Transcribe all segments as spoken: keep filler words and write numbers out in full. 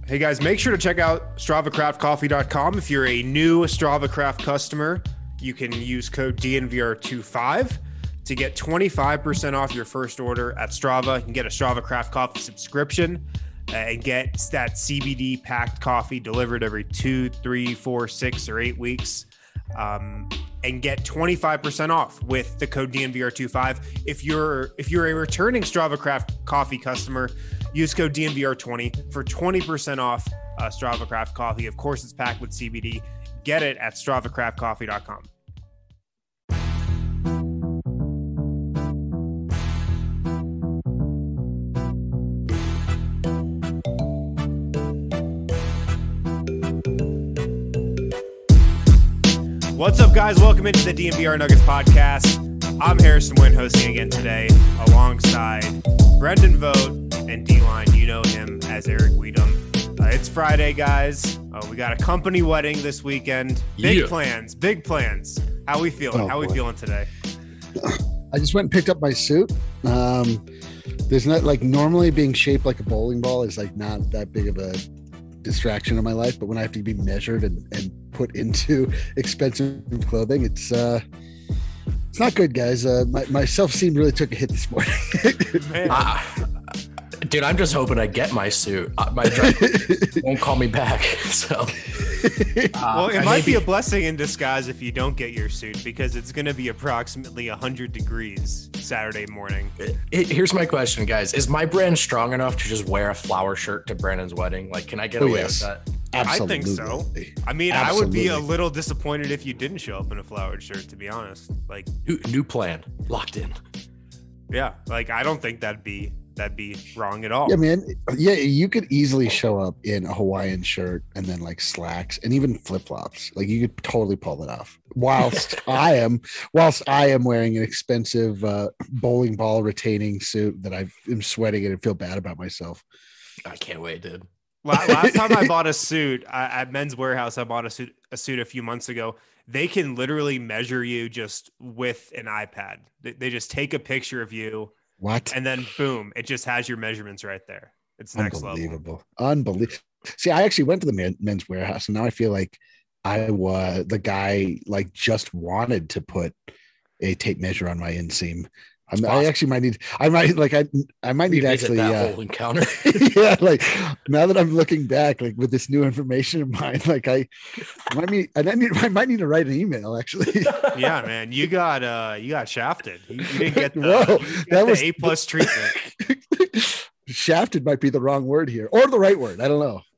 Hey guys, make sure to check out Strava Craft Coffee dot com. If you're a new Strava Craft customer, you can use code D N V R twenty-five to get twenty-five percent off your first order at Strava. You can get a Strava Craft Coffee subscription uh, and get that C B D packed coffee delivered every two, three, four, six, or eight weeks. Um, and get twenty-five percent off with the code D N V R twenty-five. If you're if you're a returning Strava Craft Coffee customer, use code D N V R twenty for twenty percent off uh, Strava Craft Coffee. Of course, it's packed with C B D. Get it at Strava Craft Coffee dot com. What's up, guys? Welcome into the D N V R Nuggets podcast. I'm Harrison Wynn, hosting again today alongside Brendan Vogt and D-Line. You know him as Eric Weedham. Uh, it's Friday, guys. Uh, we got a company wedding this weekend. Big yeah. plans, big plans. How we feeling? Oh, How boy. we feeling today? I just went and picked up my suit. Um, there's not like normally being shaped like a bowling ball is like not that big of a distraction in my life, but when I have to be measured and, and put into expensive clothing, it's uh it's not good, guys. Uh my, my self-esteem really took a hit this morning. uh, dude, I'm just hoping I get my suit. Uh, my driver won't call me back. So uh, well, it I might be a blessing in disguise if you don't get your suit, because it's going to be approximately one hundred degrees Saturday morning. It, it, here's my question, guys. Is my brand strong enough to just wear a flower shirt to Brandon's wedding? Like, can I get oh, away yes. with that? Absolutely. I think so. I mean, Absolutely. I would be a little disappointed if you didn't show up in a flowered shirt, to be honest. Like, new, new plan, locked in. Yeah, like I don't think that'd be that'd be wrong at all. Yeah, man. Yeah, you could easily show up in a Hawaiian shirt and then like slacks and even flip flops. Like you could totally pull it off. Whilst I am, whilst I am wearing an expensive uh, bowling ball retaining suit that I am sweating in and feel bad about myself. I can't wait, dude. Last time I bought a suit I, at Men's Warehouse, I bought a suit a suit a few months ago. They can literally measure you just with an iPad. They, they just take a picture of you. What? And then boom, it just has your measurements right there. It's next level. Unbelievable. Unbelievable. See, I actually went to the men, Men's Warehouse, and now I feel like I was the guy like just wanted to put a tape measure on my inseam. I'm, I actually might need. I might like. I. I might need Revisit actually. That uh, whole encounter. Yeah, like now that I'm looking back, like with this new information in mind, like I might need. I need. I might need to write an email. Actually. Yeah, man, you got uh, you got shafted. You, you didn't get the, Whoa, you get that the was A plus treatment. Shafted might be the wrong word here, or the right word. I don't know.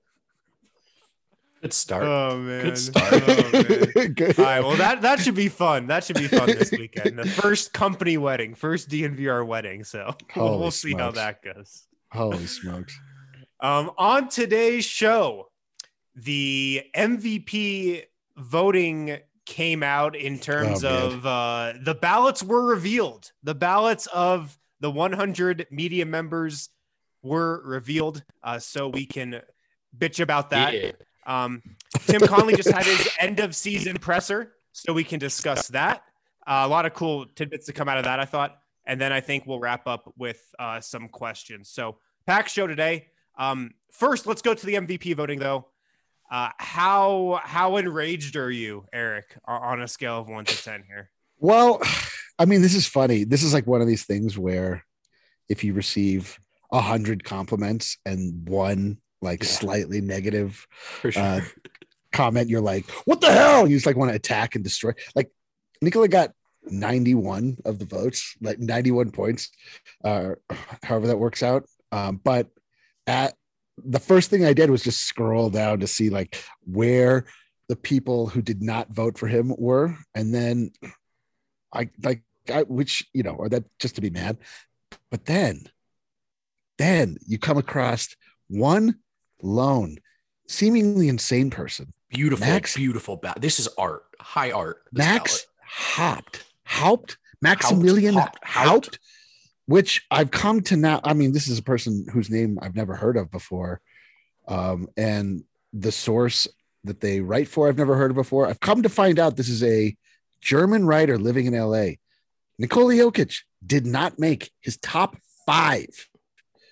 Good start. Oh man. Good start. Oh, man. Good. All right. Well, that that should be fun. That should be fun this weekend. The first company wedding, first D N V R wedding. So we'll, we'll see how that goes. Holy smokes. Um, on today's show, the M V P voting came out in terms oh, of uh, the ballots were revealed. The ballots of the one hundred media members were revealed. Uh, so we can bitch about that. Yeah. Um, Tim Conley just had his end of season presser, so we can discuss that. Uh, a lot of cool tidbits to come out of that, I thought. And then I think we'll wrap up with uh, some questions. So packed show today. Um, first, let's go to the M V P voting, though. Uh, how how enraged are you, Eric, on a scale of one to ten here? Well, I mean, this is funny. This is like one of these things where if you receive a hundred compliments and one like yeah. slightly negative For sure. uh, comment, you're like, what the hell? You just like want to attack and destroy. Like Nikola got ninety-one of the votes, like ninety-one points, uh, however that works out. Um, but at the first thing I did was just scroll down to see like where the people who did not vote for him were. And then I like, I, which, you know, or that just to be mad. But then, then you come across one lone, seemingly insane person. Beautiful, Max, beautiful. Ba- this is art, high art. Max Haupt, Haupt, Maximilian Haupt, Haupt, which I've come to now. I mean, this is a person whose name I've never heard of before. Um, and the source that they write for, I've never heard of before. I've come to find out this is a German writer living in L A. Nikola Jokic did not make his top five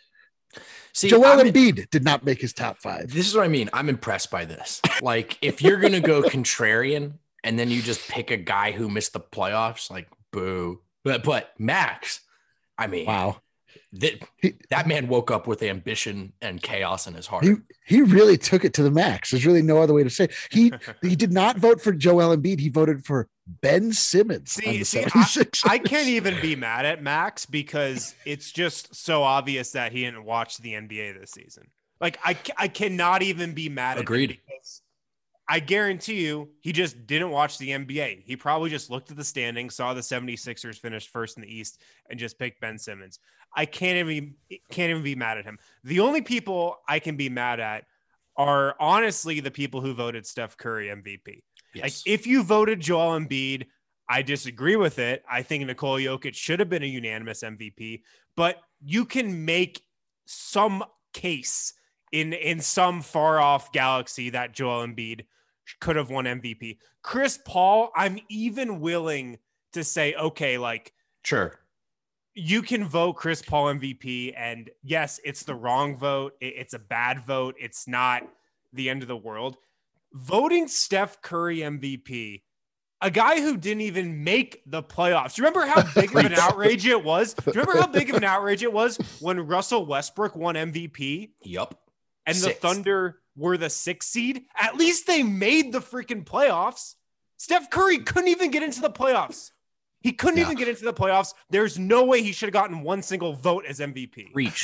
See, Joel I'm- Embiid did not make his top five. This is what I mean. I'm impressed by this. Like, if you're gonna go contrarian and then you just pick a guy who missed the playoffs, like boo. But but Max, I mean, Wow. that that man woke up with ambition and chaos in his heart. He he really took it to the max. There's really no other way to say it. He he did not vote for Joel Embiid. He voted for Ben Simmons. on See, the see I, 76ers. I can't even be mad at Max because it's just so obvious that he didn't watch the N B A this season. Like, I, ca- I cannot even be mad at Agreed. him because I guarantee you he just didn't watch the N B A. He probably just looked at the standings, saw the seventy-sixers finish first in the East, and just picked Ben Simmons. I can't even can't even be mad at him. The only people I can be mad at are honestly the people who voted Steph Curry M V P. Yes. Like, if you voted Joel Embiid, I disagree with it. I think Nikola Jokic should have been a unanimous M V P, but you can make some case in, in some far off galaxy that Joel Embiid could have won M V P. Chris Paul, I'm even willing to say, okay, like, Sure. you can vote Chris Paul M V P, and yes, it's the wrong vote. It- It's a bad vote. It's not the end of the world. Voting Steph Curry M V P, a guy who didn't even make the playoffs. Do you remember how big of an outrage it was? Do you remember how big of an outrage it was when Russell Westbrook won M V P Yup. and the Sixth. Thunder were the sixth seed? At least they made the freaking playoffs. Steph Curry couldn't even get into the playoffs. He couldn't Yeah. even get into the playoffs. There's no way he should have gotten one single vote as M V P. Reach.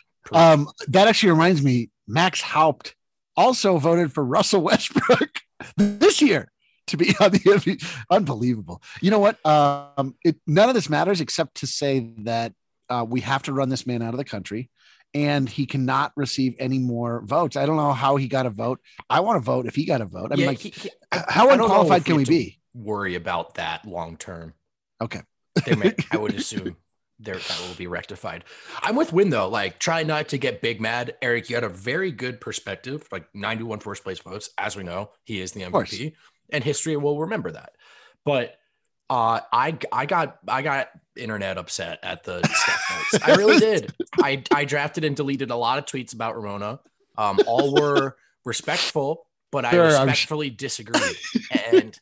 Um, that actually reminds me, Max Haupt also voted for Russell Westbrook this year to be on the M V P. Unbelievable. You know what? Um, it, none of this matters except to say that uh, we have to run this man out of the country and he cannot receive any more votes. I don't know how he got a vote. I want to vote if he got a vote. I mean, Yeah, like, he- he- how I don't know unqualified if can we have to be? Worry about that long term. Okay. They may, I would assume there that will be rectified. I'm with Win though. Like, try not to get big mad. Eric, you had a very good perspective. Like ninety-one first place votes, as we know, he is the M V P, and history will remember that. But uh, I I got I got internet upset at the Steph votes. I really did. I I drafted and deleted a lot of tweets about Ramona. Um, all were respectful, but I Sure, I'm respectfully disagreed. And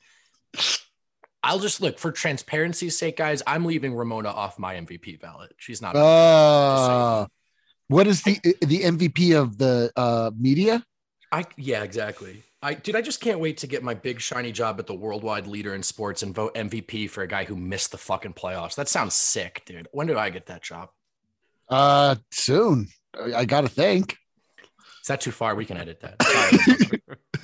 I'll just look for transparency's sake, guys. I'm leaving Ramona off my M V P ballot. She's not. Uh, what is the the M V P of the uh, media? I yeah, exactly. I dude, I just can't wait to get my big shiny job at the worldwide leader in sports and vote M V P for a guy who missed the fucking playoffs. That sounds sick, dude. When do I get that job? Uh, soon. I, I got to think. Is that too far? We can edit that. Sorry.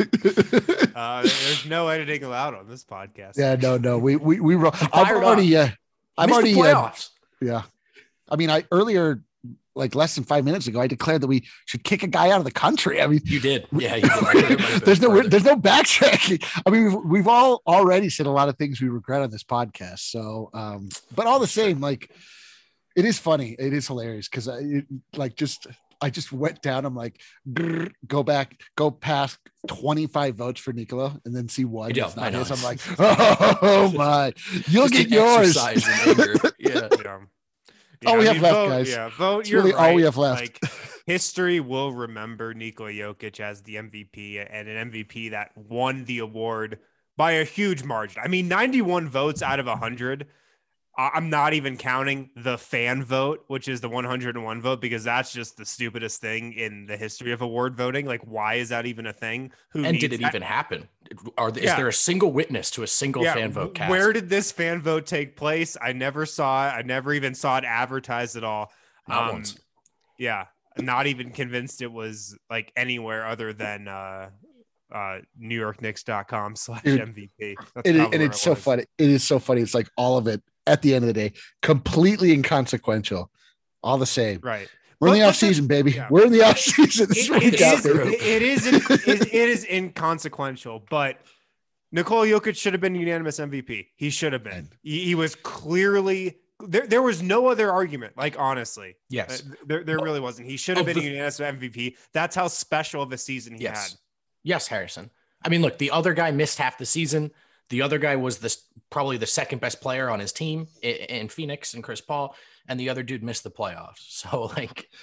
Uh, there's no editing allowed on this podcast. Yeah, no, no. We we we. Ro- I've Fired already. Uh, I've Missed the already. Uh, playoffs. yeah. I mean, I earlier, like less than five minutes ago, I declared that we should kick a guy out of the country. I mean, You did. Yeah, you did. I think it might have been there's no further. there's no backtracking. I mean, we've, we've all already said a lot of things we regret on this podcast. So, um, but all the same, like, it is funny. It is hilarious because I it, like just I just went down. I'm like, grrr, go back, go past twenty-five votes for Nicola, and then see one. Yeah, It's I not know. his. I'm like, oh my, you'll Just get an yours. exercise in anger. Yeah. Yeah. All we I have left, vote, guys. Yeah, vote. It's You're really all we right. have left. Like, history will remember Nikola Jokic as the M V P and an M V P that won the award by a huge margin. I mean, ninety-one votes out of one hundred. I- I'm not even counting the fan vote, which is the one hundred one vote, because that's just the stupidest thing in the history of award voting. Like, why is that even a thing? Who And did needs it that? even happen? Are is Yeah. there a single witness to a single Yeah, fan vote cast? Where did this fan vote take place? I never saw it. I never even saw it advertised at all. Not Um, once. Yeah, not even convinced it was like anywhere other than uh, uh, New York Knicks dot com slash Dude, M V P. That's It is, probably and where it's it so was. funny. It is so funny. It's like all of it at the end of the day, completely inconsequential. All the same. Right. We're in But- the but off season, baby. yeah. We're in the off season. This is It, what we it got, is, baby. it, it is in- it, it is inconsequential, but Nikola Jokic should have been unanimous M V P. He should have been. He, he was clearly there. There was no other argument. Like, honestly, Yes. Uh, there, there really wasn't. He should have Of been the- unanimous M V P. That's how special of a season he Yes. had. Yes, Harrison. I mean, look, the other guy missed half the season. The other guy was this probably the second best player on his team in, in Phoenix and Chris Paul, and the other dude missed the playoffs. So, like,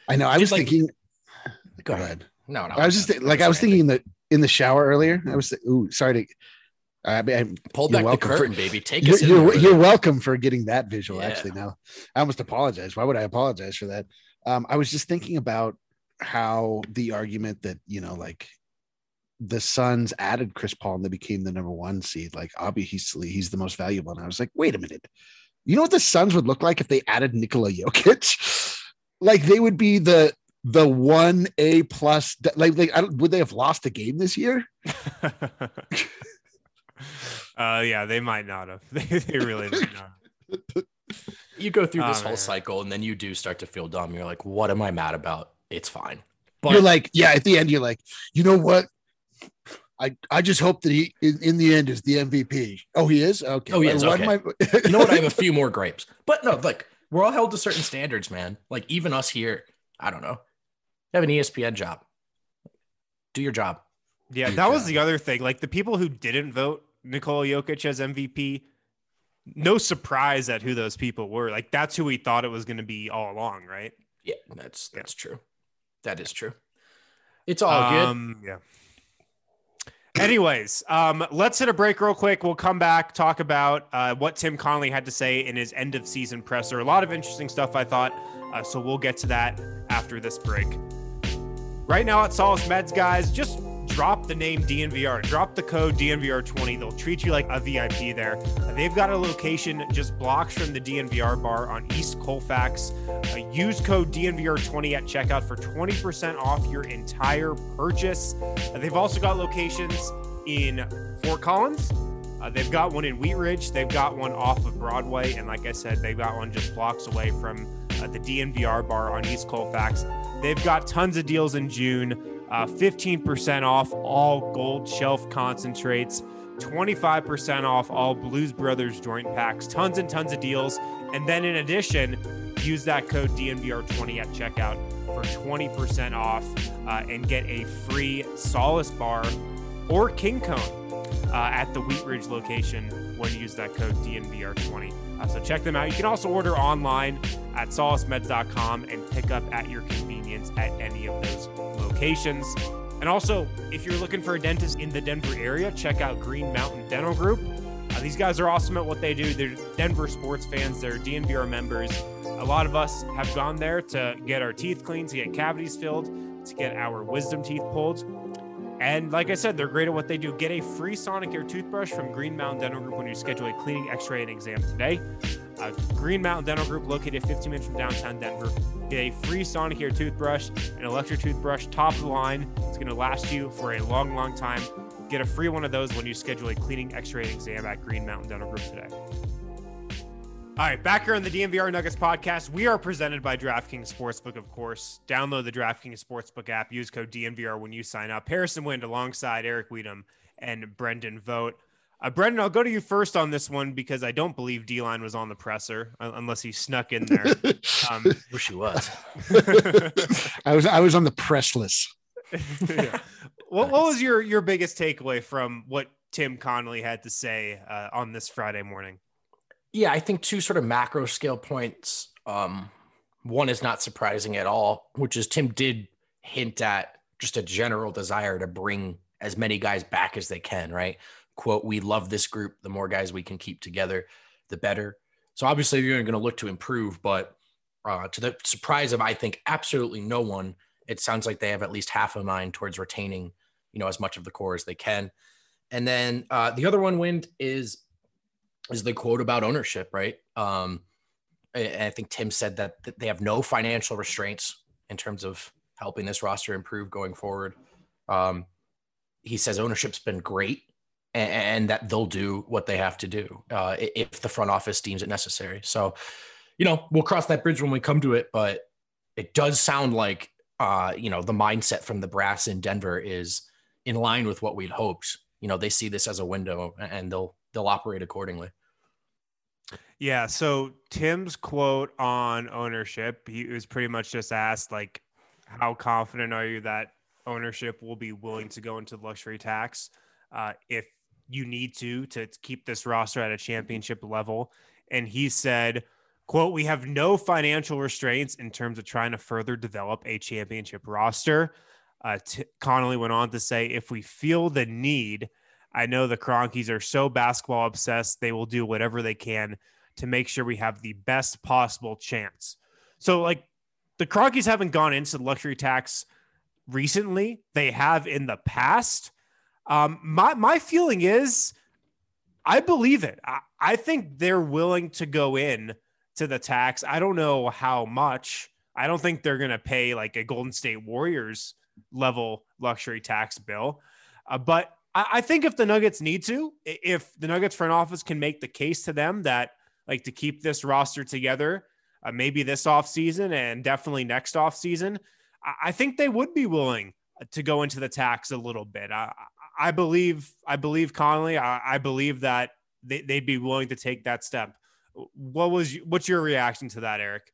I know. I was like, thinking. Go ahead. No, no. I was just th- like I was thinking that in the shower earlier. I was ooh, sorry to. I mean, pull back the curtain, for, baby. Take you're, us. You're, you're welcome for getting that visual. Yeah. Actually, now I almost apologize. Why would I apologize for that? Um, I was just thinking about how the argument that you know, like the Suns added Chris Paul and they became the number one seed. Like obviously, he's the most valuable. And I was like, wait a minute. You know what the Suns would look like if they added Nikola Jokic? Like they would be the the one A plus. Like, like I don't, would they have lost a game this year? uh, yeah, they might not have. They, they really might not. You go through this oh, whole man. cycle, and then you do start to feel dumb. You're like, "What am I mad about? It's fine." But you're like, yeah. At the end, you're like, you know what? I, I just hope that he in, in the end is the M V P. Oh, he is? Okay. Oh, he is. Okay. I... You know what? I have a few more grapes. But no, like we're all held to certain standards, man. Like even us here, I don't know. You have an E S P N job. Do your job. Yeah, Do that job. was the other thing. Like the people who didn't vote Nikola Jokic as M V P, no surprise at who those people were. Like that's who we thought it was going to be all along, right? Yeah, that's that's yeah. true. That is true. It's all um, good. Yeah. Anyways, um, let's hit a break real quick. We'll come back, talk about uh, what Tim Connelly had to say in his end of season presser. A lot of interesting stuff, I thought. Uh, so we'll get to that after this break. Right now at Solace Meds, guys, just drop the name D N V R. Drop the code D N V R twenty. They'll treat you like a V I P there. Uh, they've got a location just blocks from the D N V R bar on East Colfax. Uh, use code D N V R twenty at checkout for twenty percent off your entire purchase. Uh, they've also got locations in Fort Collins. Uh, they've got one in Wheat Ridge. They've got one off of Broadway. And like I said, they've got one just blocks away from uh, the D N V R bar on East Colfax. They've got tons of deals in June. Uh, fifteen percent off all Gold Shelf concentrates, twenty-five percent off all Blues Brothers joint packs, tons and tons of deals. And then in addition, use that code D N V R twenty at checkout for twenty percent off uh, and get a free Solace bar or King Cone uh, at the Wheat Ridge location when you use that code D N V R twenty. Uh, so check them out. You can also order online at solace meds dot com and pick up at your convenience at any of those locations. And also, if you're looking for a dentist in the Denver area, check out Green Mountain Dental Group. Uh, these guys are awesome at what they do. They're Denver sports fans. They're D N V R members. A lot of us have gone there to get our teeth cleaned, to get cavities filled, to get our wisdom teeth pulled. And like I said, they're great at what they do. Get a free Sonicare toothbrush from Green Mountain Dental Group when you schedule a cleaning, x-ray, and exam today. Uh, Green Mountain Dental Group, located fifteen minutes from downtown Denver. Get a free Sonicare toothbrush, an electric toothbrush, top of the line. It's going to last you for a long, long time. Get a free one of those when you schedule a cleaning, x-ray, and exam at Green Mountain Dental Group today. All right, back here on the D N V R Nuggets podcast, we are presented by DraftKings Sportsbook, of course. Download the DraftKings Sportsbook app. Use code D N V R when you sign up. Harrison Wind alongside Eric Weedham and Brendan Vogt. Uh, Brendan, I'll go to you first on this one because I don't believe D-Line was on the presser uh, unless he snuck in there. Um, Wish he was. I was I was on the press list. Yeah. What, what was your, your biggest takeaway from what Tim Connelly had to say uh, on this Friday morning? Yeah, I think two sort of macro scale points. Um, one is not surprising at all, which is Tim did hint at just a general desire to bring as many guys back as they can, right? Quote, we love this group. The more guys we can keep together, the better. So obviously you're going to look to improve, but uh, to the surprise of, I think, absolutely no one, it sounds like they have at least half a mind towards retaining, you know, as much of the core as they can. And then uh, the other one, Wind, is is the quote about ownership, right? Um, and I think Tim said that they have no financial restraints in terms of helping this roster improve going forward. Um, he says ownership's been great and, and that they'll do what they have to do uh, if the front office deems it necessary. So, you know, we'll cross that bridge when we come to it, but it does sound like, uh, you know, the mindset from the brass in Denver is in line with what we'd hoped. You know, they see this as a window and they'll, they'll operate accordingly. Yeah. So Tim's quote on ownership, he was pretty much just asked, like, how confident are you that ownership will be willing to go into luxury tax uh, if you need to, to keep this roster at a championship level? And he said, Quote, we have no financial restraints in terms of trying to further develop a championship roster. Uh, T- Connolly went on to say, if we feel the need, I know the Kroenkes are so basketball obsessed, they will do whatever they can to make sure we have the best possible chance. So like the Kroenkes haven't gone into the luxury tax recently. They have in the past. Um, my, my feeling is I believe it. I, I think they're willing to go in to the tax. I don't know how much. I don't think they're going to pay like a Golden State Warriors level luxury tax bill. Uh, but I, I think if the Nuggets need to, if the Nuggets front office can make the case to them that like to keep this roster together, uh, maybe this offseason and definitely next offseason, I, I think they would be willing to go into the tax a little bit. I, I believe, I believe Connolly, I, I believe that they, they'd be willing to take that step. What was, what's your reaction to that, Eric?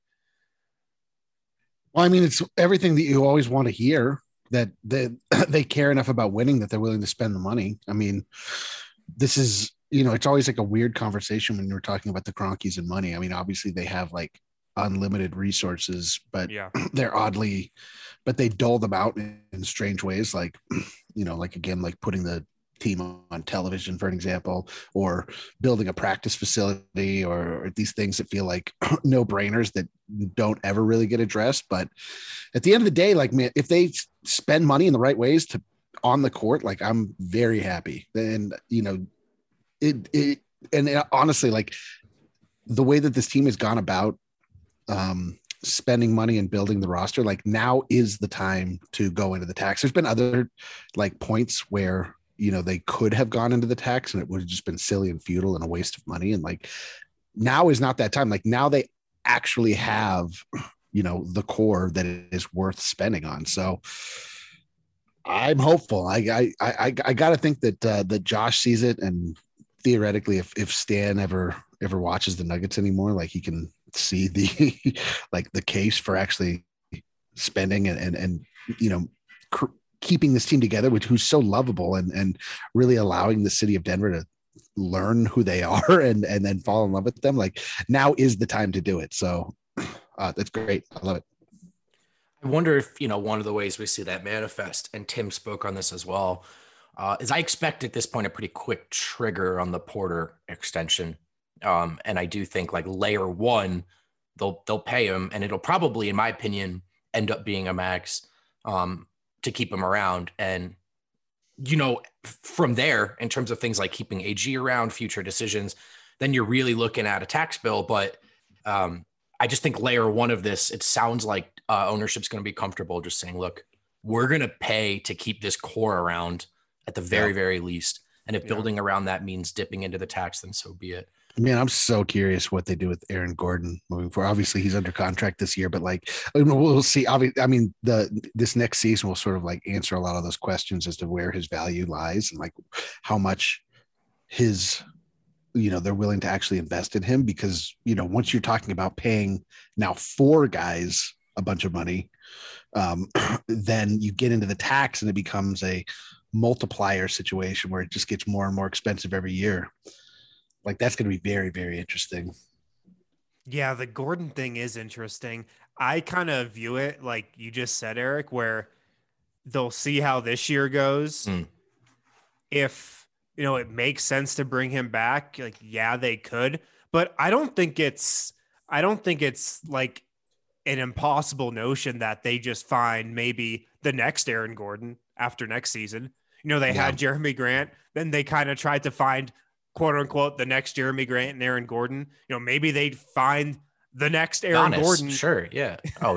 Well, I mean, it's everything that you always want to hear, that they, they care enough about winning that they're willing to spend the money. I mean, this is, you know, it's always like a weird conversation when you're talking about the Kroenkes and money. I mean, obviously they have like unlimited resources, but yeah. they're oddly, but they dole them out in, in strange ways. Like, you know, like again, like putting the team on television, for an example, or building a practice facility, or, or these things that feel like no brainers that don't ever really get addressed. But at the end of the day, like, man, if they spend money in the right ways to on the court, like I'm very happy. And, you know, it, it, and it, honestly, like the way that this team has gone about um, spending money and building the roster, like now is the time to go into the tax. There's been other like points where, you know, they could have gone into the tax and it would have just been silly and futile and a waste of money. And like, now is not that time. Like now they actually have, you know, the core that it is worth spending on. So I'm hopeful. I, I, I, I got to think that, uh, that Josh sees it. And theoretically, if, if Stan ever, ever watches the Nuggets anymore, like he can see the, like the case for actually spending and, and, and, you know, cr- keeping this team together, which who's so lovable and, and really allowing the city of Denver to learn who they are and, and then fall in love with them. Like now is the time to do it. So uh, that's great. I love it. I wonder if, you know, one of the ways we see that manifest, and Tim spoke on this as well, uh, is I expect at this point a pretty quick trigger on the Porter extension. Um, and I do think like layer one, they'll, they'll pay him, and it'll probably, in my opinion, end up being a max. Um, to keep him around. And, you know, from there, in terms of things like keeping A G around, future decisions, then you're really looking at a tax bill. But um, I just think layer one of this, it sounds like uh, ownership's going to be comfortable just saying, look, we're going to pay to keep this core around at the very, yeah. very least. And if yeah. building around that means dipping into the tax, then so be it. Man, I'm so curious what they do with Aaron Gordon moving forward. Obviously, he's under contract this year, but like we'll see. I mean, the this next season will sort of like answer a lot of those questions as to where his value lies and like how much his, you know, they're willing to actually invest in him. Because, you know, once you're talking about paying now four guys a bunch of money, um, then you get into the tax and it becomes a multiplier situation where it just gets more and more expensive every year. Like that's going to be very, very interesting. Yeah, the Gordon thing is interesting. I kind of view it like you just said, Eric, where they'll see how this year goes. Mm. If, you know, it makes sense to bring him back, like, yeah, they could. But I don't think it's, I don't think it's like an impossible notion that they just find maybe the next Aaron Gordon after next season. You know, they yeah. had Jeremy Grant, then they kind of tried to find, quote unquote, the next Jeremy Grant and Aaron Gordon. You know, maybe they'd find the next Aaron Giannis, Gordon. Sure. Yeah. Oh,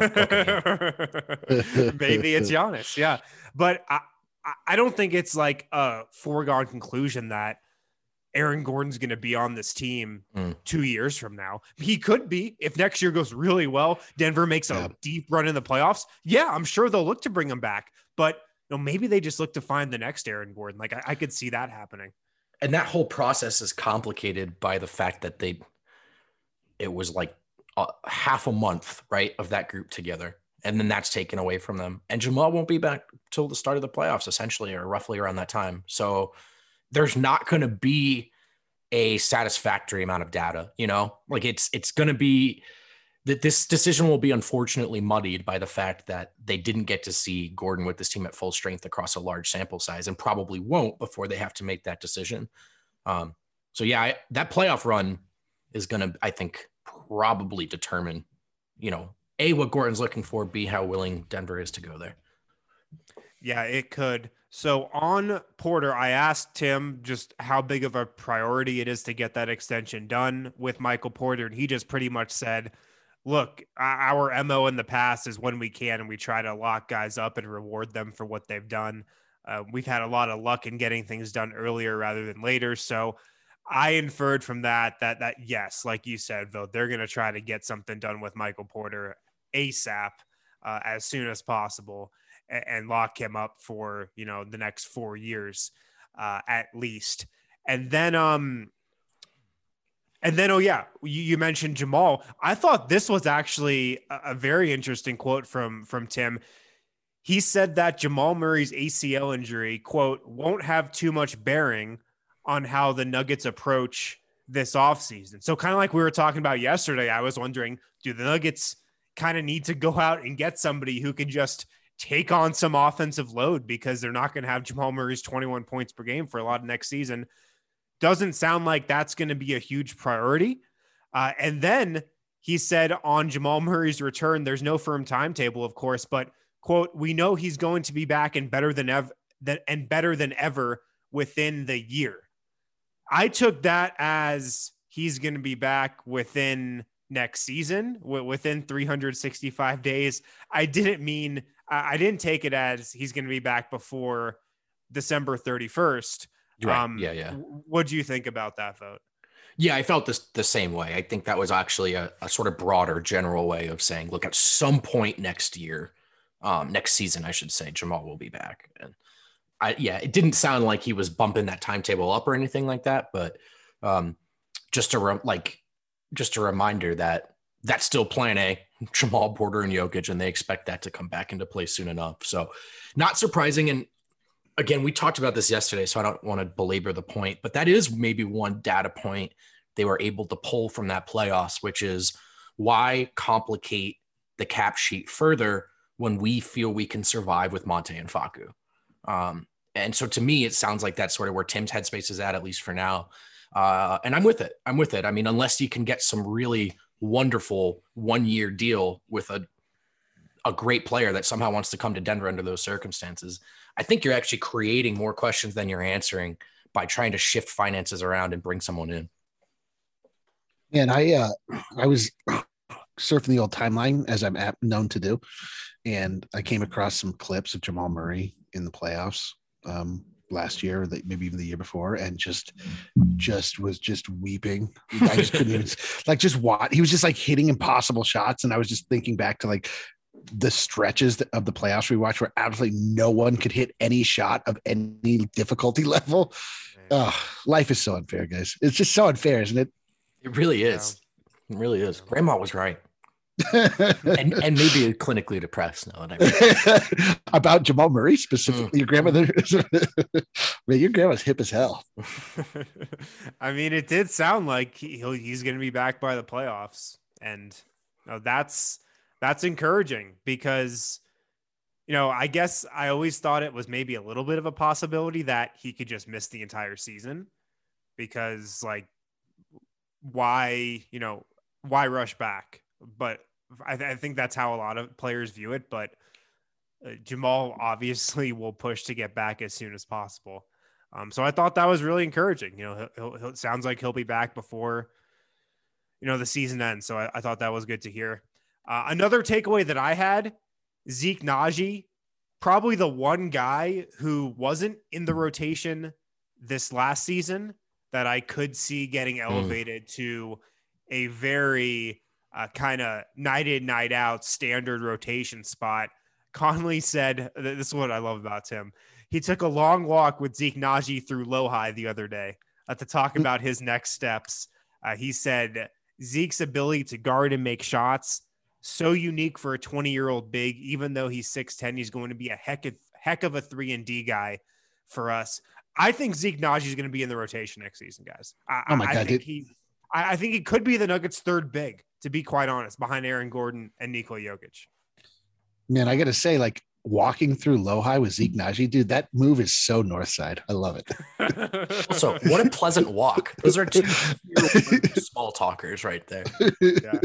maybe it's Giannis. Yeah. But I, I don't think it's like a foregone conclusion that Aaron Gordon's going to be on this team mm. two years from now. He could be if next year goes really well. Denver makes a yeah. deep run in the playoffs. Yeah, I'm sure they'll look to bring him back. But you know, maybe they just look to find the next Aaron Gordon. Like I, I could see that happening. And that whole process is complicated by the fact that they, it was like a, half a month, right, of that group together. And then that's taken away from them. And Jamal won't be back till the start of the playoffs, essentially, or roughly around that time. So there's not going to be a satisfactory amount of data. You know, like it's it's going to be that this decision will be unfortunately muddied by the fact that they didn't get to see Gordon with this team at full strength across a large sample size, and probably won't before they have to make that decision. Um, so yeah, I, that playoff run is going to, I think, probably determine, you know, A, what Gordon's looking for, B, how willing Denver is to go there. Yeah, it could. So on Porter, I asked Tim just how big of a priority it is to get that extension done with Michael Porter. And he just pretty much said, look, our M O in the past is when we can, and we try to lock guys up and reward them for what they've done. Uh, we've had a lot of luck in getting things done earlier rather than later. So I inferred from that, that, that yes, like you said, though, they're going to try to get something done with Michael Porter ASAP uh, as soon as possible and, and lock him up for, you know, the next four years uh, at least. And then, um, and then, oh yeah, you, you mentioned Jamal. I thought this was actually a, a very interesting quote from, from Tim. He said that Jamal Murray's A C L injury, quote, won't have too much bearing on how the Nuggets approach this offseason. So kind of like we were talking about yesterday, I was wondering, do the Nuggets kind of need to go out and get somebody who can just take on some offensive load, because they're not going to have Jamal Murray's twenty-one points per game for a lot of next season? Doesn't sound like that's going to be a huge priority. Uh, and then he said on Jamal Murray's return, there's no firm timetable, of course, but quote, we know he's going to be back and better than ever and better than ever within the year. I took that as he's going to be back within next season, within three hundred sixty-five days. I didn't mean, I didn't take it as he's going to be back before December thirty-first. Right. Um, yeah. Yeah. What do you think about that vote? Yeah, I felt this the same way. I think that was actually a, a sort of broader general way of saying, look, at some point next year, um, next season, I should say, Jamal will be back. And I, yeah, it didn't sound like he was bumping that timetable up or anything like that, but um, just a re- like, just a reminder that that's still plan A, Jamal, Porter, and Jokic, and they expect that to come back into play soon enough. So not surprising. And again, we talked about this yesterday, so I don't want to belabor the point, but that is maybe one data point they were able to pull from that playoffs, which is why complicate the cap sheet further when we feel we can survive with Monte and Facu. Um, and so to me, it sounds like that's sort of where Tim's headspace is at, at least for now. Uh, and I'm with it. I'm with it. I mean, unless you can get some really wonderful one-year deal with a, a great player that somehow wants to come to Denver under those circumstances, I think you're actually creating more questions than you're answering by trying to shift finances around and bring someone in. And I, uh, I was surfing the old timeline, as I'm known to do, and I came across some clips of Jamal Murray in the playoffs um, last year, maybe even the year before, and just, just was just weeping. I just couldn't even, like, just what he was just like hitting impossible shots, and I was just thinking back to like the stretches of the playoffs we watched where absolutely no one could hit any shot of any difficulty level. Oh, life is so unfair, guys. It's just so unfair, isn't it? It really is. It really is. Grandma was right. and and maybe clinically depressed now that I about Jamal Murray specifically. Mm. Your grandmother, man, your grandma's hip as hell. I mean, it did sound like he, he's going to be back by the playoffs, and you know, that's that's encouraging because, you know, I guess I always thought it was maybe a little bit of a possibility that he could just miss the entire season because, like, why, you know, why rush back? But I, th- I think that's how a lot of players view it. But uh, Jamal obviously will push to get back as soon as possible. Um, so I thought that was really encouraging. You know, he'll, he'll, it sounds like he'll be back before, you know, the season ends. So I, I thought that was good to hear. Uh, another takeaway that I had, Zeke Naji, probably the one guy who wasn't in the rotation this last season that I could see getting elevated mm. to a very uh, kind of night in, night out standard rotation spot. Conley said, this is what I love about Tim. He took a long walk with Zeke Naji through Lohi the other day uh, to talk about his next steps. Uh, he said, Zeke's ability to guard and make shots, so unique for a twenty-year-old big. Even though he's six ten, he's going to be a heck of, heck of a three and D guy for us. I think Zeke Nnaji is going to be in the rotation next season, guys. I, Oh my I God, think dude. he, I, I think he could be the Nuggets' third big, to be quite honest, behind Aaron Gordon and Nikola Jokic. Man, I got to say, like walking through Lohi with Zeke Nnaji, dude, that move is so north side. I love it. Also, what a pleasant walk. Those are two small talkers right there. Yeah.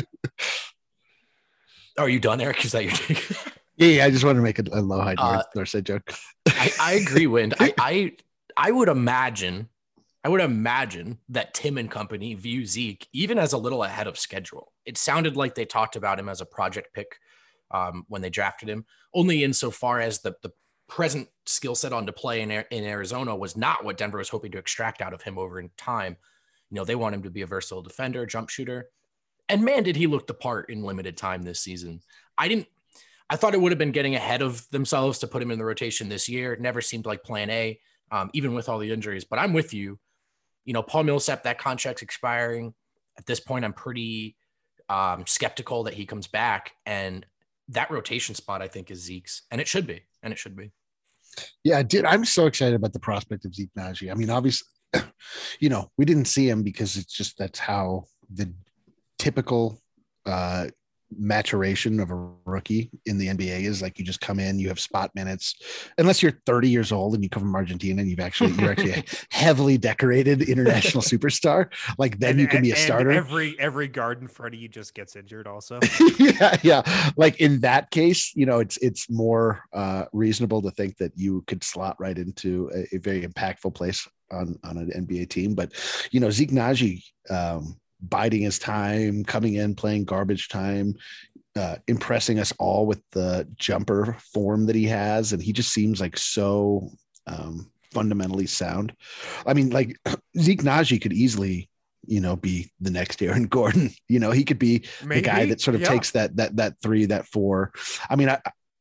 Are you done, Eric? Is that your take? Yeah, yeah, I just wanted to make a, a Lohi north, Uh, north side joke. I, I agree, Wind. I, I I would imagine, I would imagine that Tim and company view Zeke even as a little ahead of schedule. It sounded like they talked about him as a project pick um, when they drafted him, only insofar as the the present skill set on display in in Arizona was not what Denver was hoping to extract out of him over in time. You know, they want him to be a versatile defender, jump shooter, and man, did he look the part in limited time this season. I didn't. I thought it would have been getting ahead of themselves to put him in the rotation this year. It never seemed like plan A, um, even with all the injuries. But I'm with you. You know, Paul Millsap, that contract's expiring. At this point, I'm pretty um, skeptical that he comes back. And that rotation spot, I think, is Zeke's. And it should be. And it should be. Yeah, dude, I'm so excited about the prospect of Zeke Nnaji. I mean, obviously, you know, we didn't see him because it's just that's how the typical uh, maturation of a rookie in the N B A is. Like, you just come in, you have spot minutes, unless you're thirty years old and you come from Argentina and you've actually you're actually a heavily decorated international superstar. Like, then And- you can be a and starter. Every every guard in front of you just gets injured also. yeah, yeah. Like in that case, you know, it's it's more uh, reasonable to think that you could slot right into a, a very impactful place on on an N B A team. But you know, Zeke Nnaji, um, biding his time, coming in, playing garbage time, uh, impressing us all with the jumper form that he has, and he just seems like so um, fundamentally sound. I mean, like Zeke Nnaji could easily, you know, be the next Aaron Gordon. You know, he could be Maybe, the guy that sort of yeah. takes that that that three, that four. I mean, I,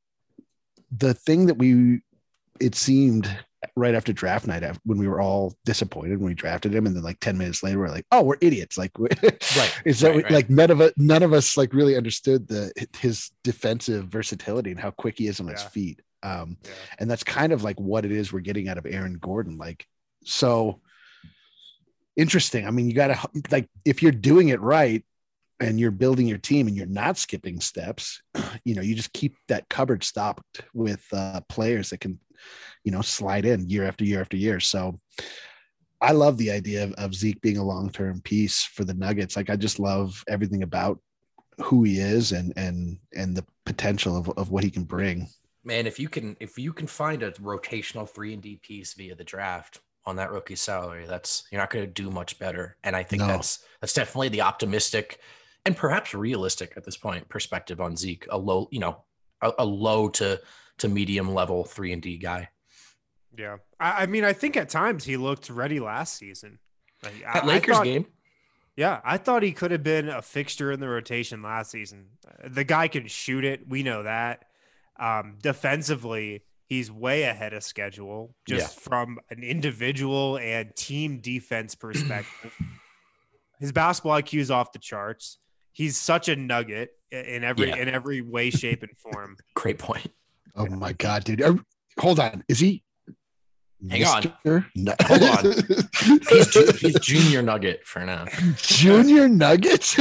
the thing that we it seemed right after draft night, when we were all disappointed when we drafted him, and then like ten minutes later, we're like, oh, we're idiots. Like, Right. is that right, we, right. like none of us, none of us like really understood the his defensive versatility and how quick he is on his Yeah. feet. Um, Yeah. and that's kind of like what it is we're getting out of Aaron Gordon. Like, so interesting. I mean, you got to, like, if you're doing it right and you're building your team and you're not skipping steps, you know, you just keep that cupboard stocked with uh, players that can, you know, slide in year after year after year. So I love the idea of, of Zeke being a long-term piece for the Nuggets. Like, I just love everything about who he is and, and, and the potential of, of what he can bring. Man, if you can if you can find a rotational three and D piece via the draft on that rookie salary, that's you're not going to do much better. And I think No. that's that's definitely the optimistic and perhaps realistic at this point perspective on Zeke, a low, you know, a, a low to to medium level three and D guy. Yeah. I, I mean, I think at times he looked ready last season. Like, That I- I Lakers thought- game, Yeah, I thought he could have been a fixture in the rotation last season. The guy can shoot it. We know that. Um, defensively, he's way ahead of schedule just from an individual and team defense perspective. His basketball I Q is off the charts. He's such a nugget in every Yeah. in every way, shape, and form. great point. Oh my God, dude. Are- hold on. Is he? Hang on. Mister No. Hold on. He's, ju- he's junior nugget for now. Junior Nuggets.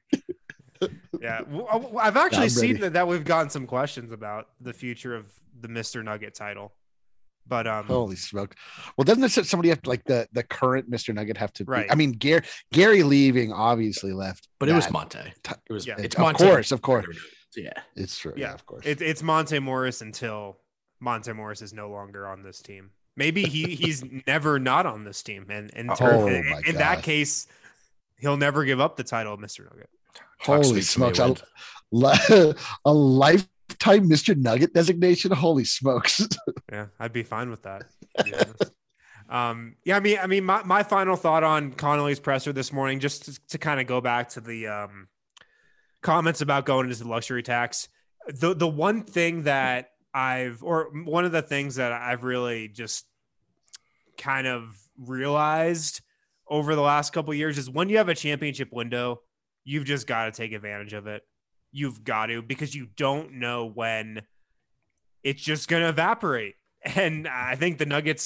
Yeah, w- w- I've actually I'm seen ready. that, that we've gotten some questions about the future of the Mister Nugget title, but um, Holy smoke. Well, doesn't this somebody have to, like the, the current Mister Nugget have to be, Right. I mean, Gary, Gary leaving obviously left. But it was that. Monte. It was Yeah. it's Of Monte. course, of course. Yeah. It's true. Yeah, Yeah. of course. It, it's Monte Morris until Monte Morris is no longer on this team. Maybe he he's never not on this team, and and Oh, ter- my in, in that God. case, he'll never give up the title of Mister Nugget. Talk Holy sweet to me, smokes. A, Wind. li- a lifetime Mister Nugget designation. Holy smokes. Yeah, I'd be fine with that. To be honest. um, yeah, I mean, I mean, my, my final thought on Connolly's presser this morning, just to, to kind of go back to the um, comments about going into the luxury tax. The the one thing that I've, or one of the things that I've really just kind of realized over the last couple of years is when you have a championship window, you've just got to take advantage of it. You've got to, because you don't know when it's just going to evaporate. And I think the Nuggets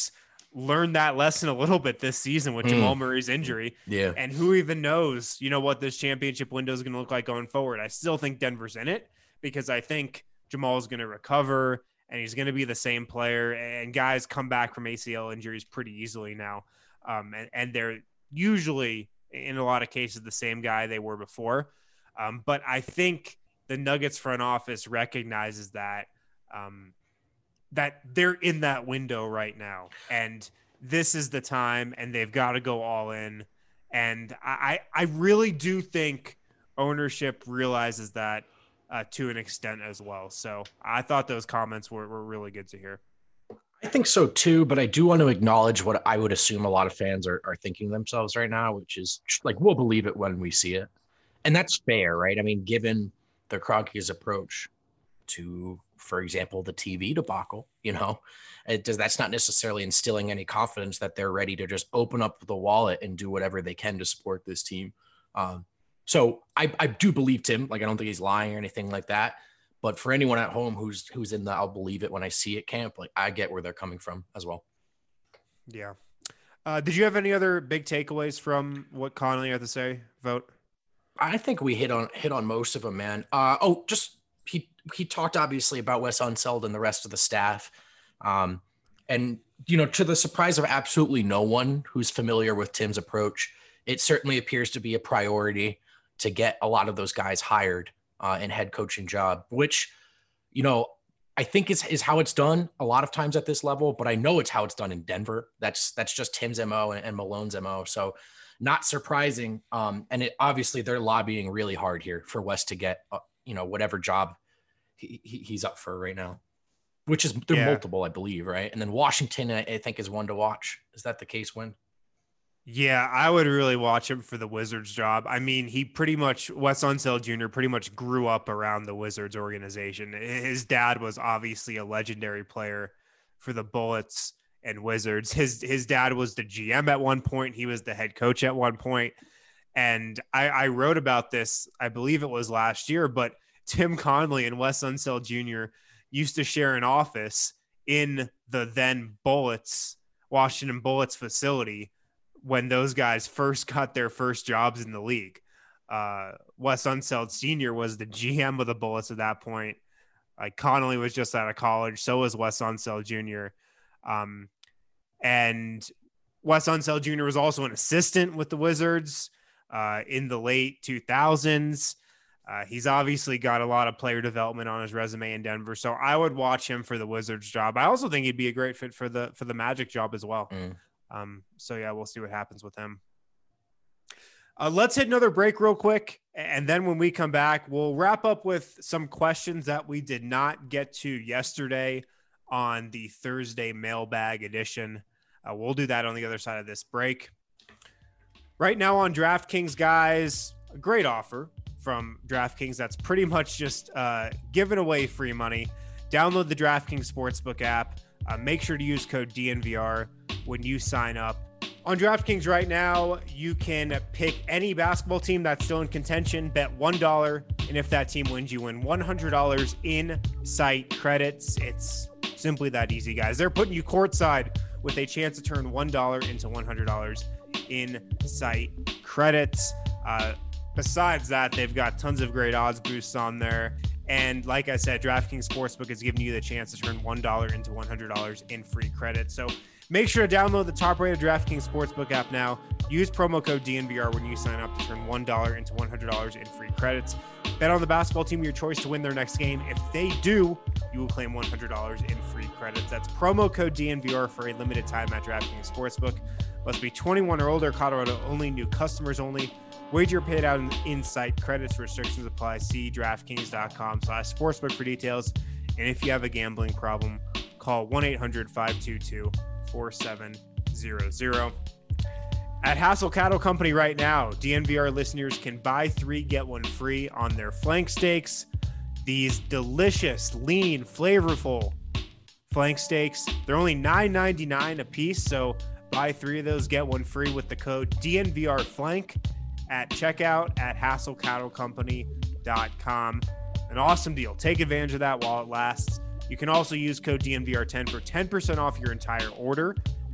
learned that lesson a little bit this season with mm. Jamal Murray's injury. Yeah. And who even knows, you know, what this championship window is going to look like going forward. I still think Denver's in it because I think Jamal is going to recover and he's going to be the same player, and guys come back from A C L injuries pretty easily now. Um, and, and they're usually in a lot of cases the same guy they were before. Um, but I think the Nuggets front office recognizes that, um, that they're in that window right now, and this is the time, and they've got to go all in. And I, I really do think ownership realizes that uh, to an extent as well. So I thought those comments were, were really good to hear. I think so too, but I do want to acknowledge what I would assume a lot of fans are, are thinking themselves right now, which is like, we'll believe it when we see it. And that's fair, right? I mean, given the Kroenke's approach to, for example, the T V debacle, you know, it does, that's not necessarily instilling any confidence that they're ready to just open up the wallet and do whatever they can to support this team. Um, so I, I do believe Tim, like, I don't think he's lying or anything like that. But for anyone at home who's who's in the I'll believe it when I see it camp, like, I get where they're coming from as well. Yeah. Uh, did you have any other big takeaways from what Connolly had to say? Vote. I think we hit on hit on most of them, man. Uh, oh, just he he talked obviously about Wes Unseld and the rest of the staff, um, and you know, to the surprise of absolutely no one who's familiar with Tim's approach, it certainly appears to be a priority to get a lot of those guys hired uh, in head coaching job, which, you know, I think is is how it's done a lot of times at this level. But I know it's how it's done in Denver. That's that's just Tim's M O and, and Malone's M O. So not surprising. Um, and it obviously they're lobbying really hard here for Wes to get, uh, you know, whatever job he, he, he's up for right now, which is they're yeah. multiple, I believe. Right. And then Washington, I, I think, is one to watch. Is that the case, Win? Yeah, I would really watch him for the Wizards job. I mean, he pretty much, Wes Unseld Junior pretty much grew up around the Wizards organization. His dad was obviously a legendary player for the Bullets and Wizards. His his dad was the G M at one point. He was the head coach at one point. And I, I wrote about this, I believe it was last year, but Tim Connolly and Wes Unseld Junior used to share an office in the then Bullets, Washington Bullets facility when those guys first got their first jobs in the league. Uh, Wes Unseld Senior was the G M of the Bullets at that point. Like, Connolly was just out of college. So was Wes Unseld Junior Um, and Wes Unseld Junior was also an assistant with the Wizards uh, in the late two thousands. Uh, he's obviously got a lot of player development on his resume in Denver. So I would watch him for the Wizards job. I also think he'd be a great fit for the, for the Magic job as well. Mm. Um, so yeah, we'll see what happens with him. Uh, let's hit another break real quick. And then when we come back, we'll wrap up with some questions that we did not get to yesterday on the Thursday mailbag edition. Uh, we'll do that on the other side of this break. Right now on DraftKings, guys, a great offer from DraftKings that's pretty much just uh, giving away free money. Download the DraftKings Sportsbook app. Uh, make sure to use code D N V R when you sign up. On DraftKings right now, you can pick any basketball team that's still in contention, bet one dollar, and if that team wins, you win one hundred dollars in site credits. It's simply that easy, guys. They're putting you courtside with a chance to turn one dollar into one hundred dollars in site credits. Uh, besides that, they've got tons of great odds boosts on there. And like I said, DraftKings Sportsbook is giving you the chance to turn one dollar into one hundred dollars in free credit. So make sure to download the top-rated DraftKings Sportsbook app now. Use promo code D N V R when you sign up to turn one dollar into one hundred dollars in free credits. Bet on the basketball team of your choice to win their next game. If they do, you will claim one hundred dollars in free credits. That's promo code D N V R for a limited time at DraftKings Sportsbook. Must be twenty-one or older, Colorado only, new customers only. Wager paid out in in-site credits. Restrictions apply. See DraftKings.com slash sportsbook for details. And if you have a gambling problem, call one eight hundred five two two four seven zero zero. At Hassel Cattle Company right now, D N V R listeners can buy three, get one free on their flank steaks. These delicious, lean, flavorful flank steaks. They're only nine ninety-nine a piece, so buy three of those, get one free with the code D N V R flank at checkout at hassel cattle company dot com. An awesome deal. Take advantage of that while it lasts. You can also use code D N V R ten for ten percent off your entire order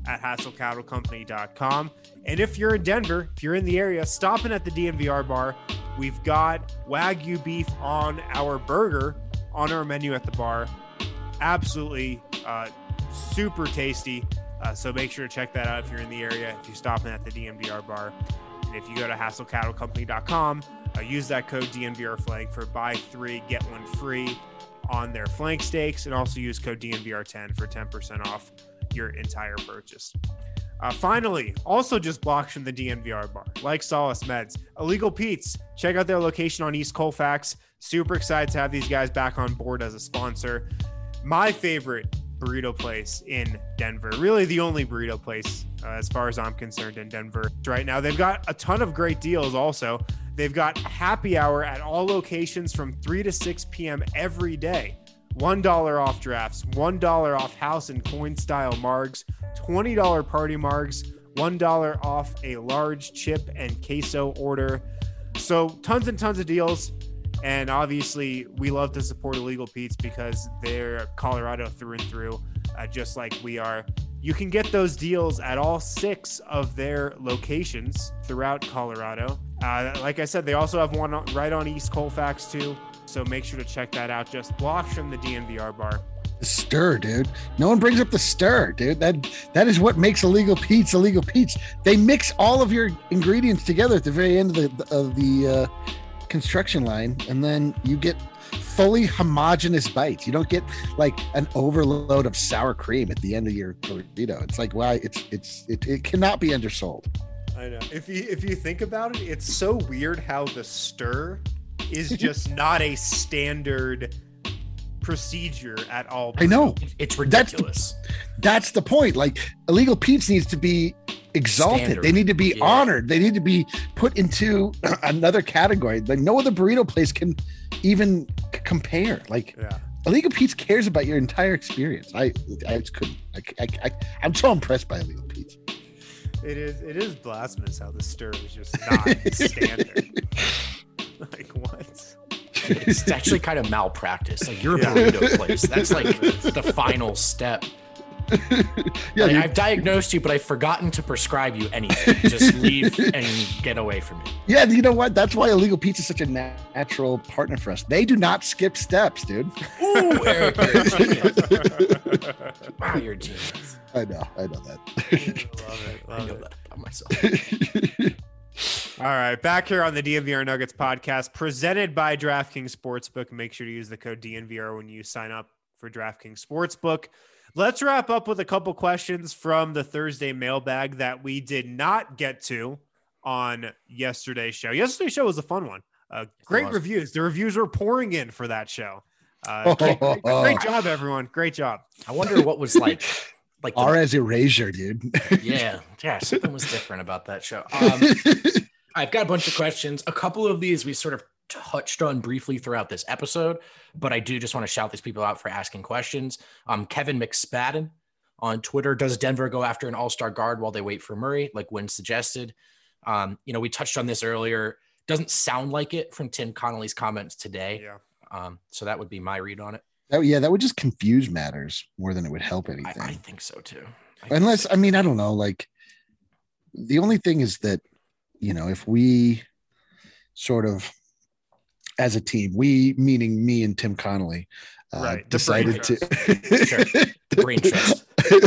at hassel cattle company dot com. And if you're in Denver, if you're in the area, stop in at the D N V R bar. We've got Wagyu beef on our burger on our menu at the bar. Absolutely uh, super tasty. Uh, so make sure to check that out if you're in the area, if you stop in at the D N V R bar. And if you go to hassel cattle company dot com, uh, use that code D N V R flank for buy three, get one free on their flank steaks, and also use code D N V R ten for ten percent off your entire purchase. Uh, finally, also just blocks from the D N V R bar, like Solace Meds, Illegal Pete's. Check out their location on East Colfax. Super excited to have these guys back on board as a sponsor. My favorite burrito place in Denver, really the only burrito place uh, as far as I'm concerned in Denver right now. They've got a ton of great deals also. They've got happy hour at all locations from three to six p.m. every day. one dollar off drafts, one dollar off house and coin style margs, twenty dollars party margs, one dollar off a large chip and queso order. So tons and tons of deals. And obviously we love to support Illegal Pete's because they're Colorado through and through, uh, just like we are. You can get those deals at all six of their locations throughout Colorado. Uh, like I said, they also have one right on East Colfax too. So make sure to check that out. Just blocks from the D N V R bar. The stir, dude. No one brings up the stir, dude. That that is what makes Illegal Pete's Illegal Pete's. They mix all of your ingredients together at the very end of the of the uh, construction line, and then you get fully homogenous bites. You don't get like an overload of sour cream at the end of your burrito. It's like, wow, it's it's it, it cannot be undersold. I know. If you if you think about it, it's so weird how the stir is just not a standard procedure at all. I know. It's ridiculous. That's the, that's the point. Like, Illegal Pete's needs to be exalted. Standard. They need to be Yeah. honored. They need to be put into another category. Like, no other burrito place can even c- compare. Like, Yeah. Illegal Pete's cares about your entire experience. I I just couldn't. I, I, I, I'm so impressed by Illegal Pete's. It is it is blasphemous how the stir is just not standard. Like, what? It's actually kind of malpractice. Like, you're a Yeah. burrito place. That's like the final step. Yeah, Like, dude. I've diagnosed you, but I've forgotten to prescribe you anything. Just leave and get away from me. Yeah, you know what? That's why Illegal Pete's is such a na- natural partner for us. They do not skip steps, dude. Ooh, Eric, you're a genius. Wow, you're a genius. I know. I know that. Love it. I Love know it. that about myself. All right, back here on the D N V R Nuggets podcast, presented by DraftKings Sportsbook. Make sure to use the code D N V R when you sign up for DraftKings Sportsbook. Let's wrap up with a couple questions from the Thursday mailbag that we did not get to on yesterday's show. Yesterday's show was a fun one. Uh, great was. reviews. The reviews were pouring in for that show. Uh, great, great, great job, everyone. Great job. I wonder what was like. Like the- Arez erasure, dude. yeah, yeah, something was different about that show. Um, I've got a bunch of questions. A couple of these we sort of touched on briefly throughout this episode, but I do just want to shout these people out for asking questions. Um, Kevin McSpadden on Twitter: does Denver go after an all-star guard while they wait for Murray, like Wynn suggested? Um, you know, we touched on this earlier. Doesn't sound like it from Tim Connolly's comments today. Yeah. Um, so that would be my read on it. Oh, yeah, that would just confuse matters more than it would help anything. I, I think so too. I Unless, I mean, I don't know. Like, the only thing is that, you know, if we sort of, as a team, we meaning me and Tim Connolly, uh, Right, the brain decided to. Sure. Brain trust.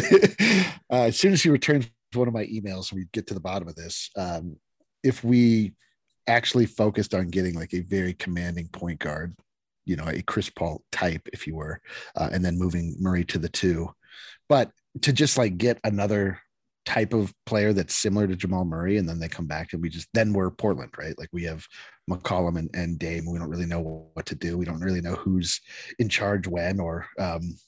uh, as soon as he returns one of my emails, we get to the bottom of this. Um, if we actually focused on getting like a very commanding point guard, you know, a Chris Paul type, if you were, uh, and then moving Murray to the two, but to just like get another type of player that's similar to Jamal Murray, and then they come back and we just, then we're Portland, right? Like we have McCollum and, and Dame. We don't really know what to do. We don't really know who's in charge when, or um,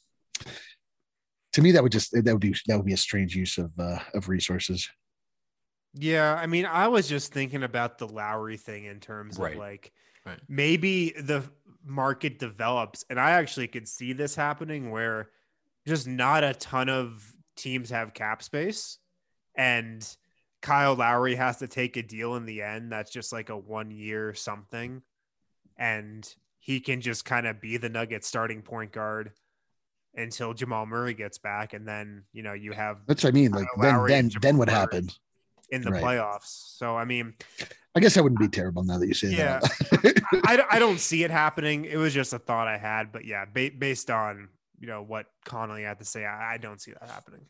to me, that would just, that would be, that would be a strange use of, uh, of resources. Yeah, I mean, I was just thinking about the Lowry thing in terms Right. of like Right. maybe the market develops, and I actually could see this happening where just not a ton of teams have cap space, and Kyle Lowry has to take a deal in the end that's just like a one year something, and he can just kind of be the Nuggets starting point guard until Jamal Murray gets back. And then, you know, you have that's what I mean. Like, then, then, then what happens in the right. playoffs? So, I mean, I guess that wouldn't be terrible now that you say yeah, that. I, I don't see it happening. It was just a thought I had, but yeah, ba- based on, you know, what Connolly had to say, I, I don't see that happening.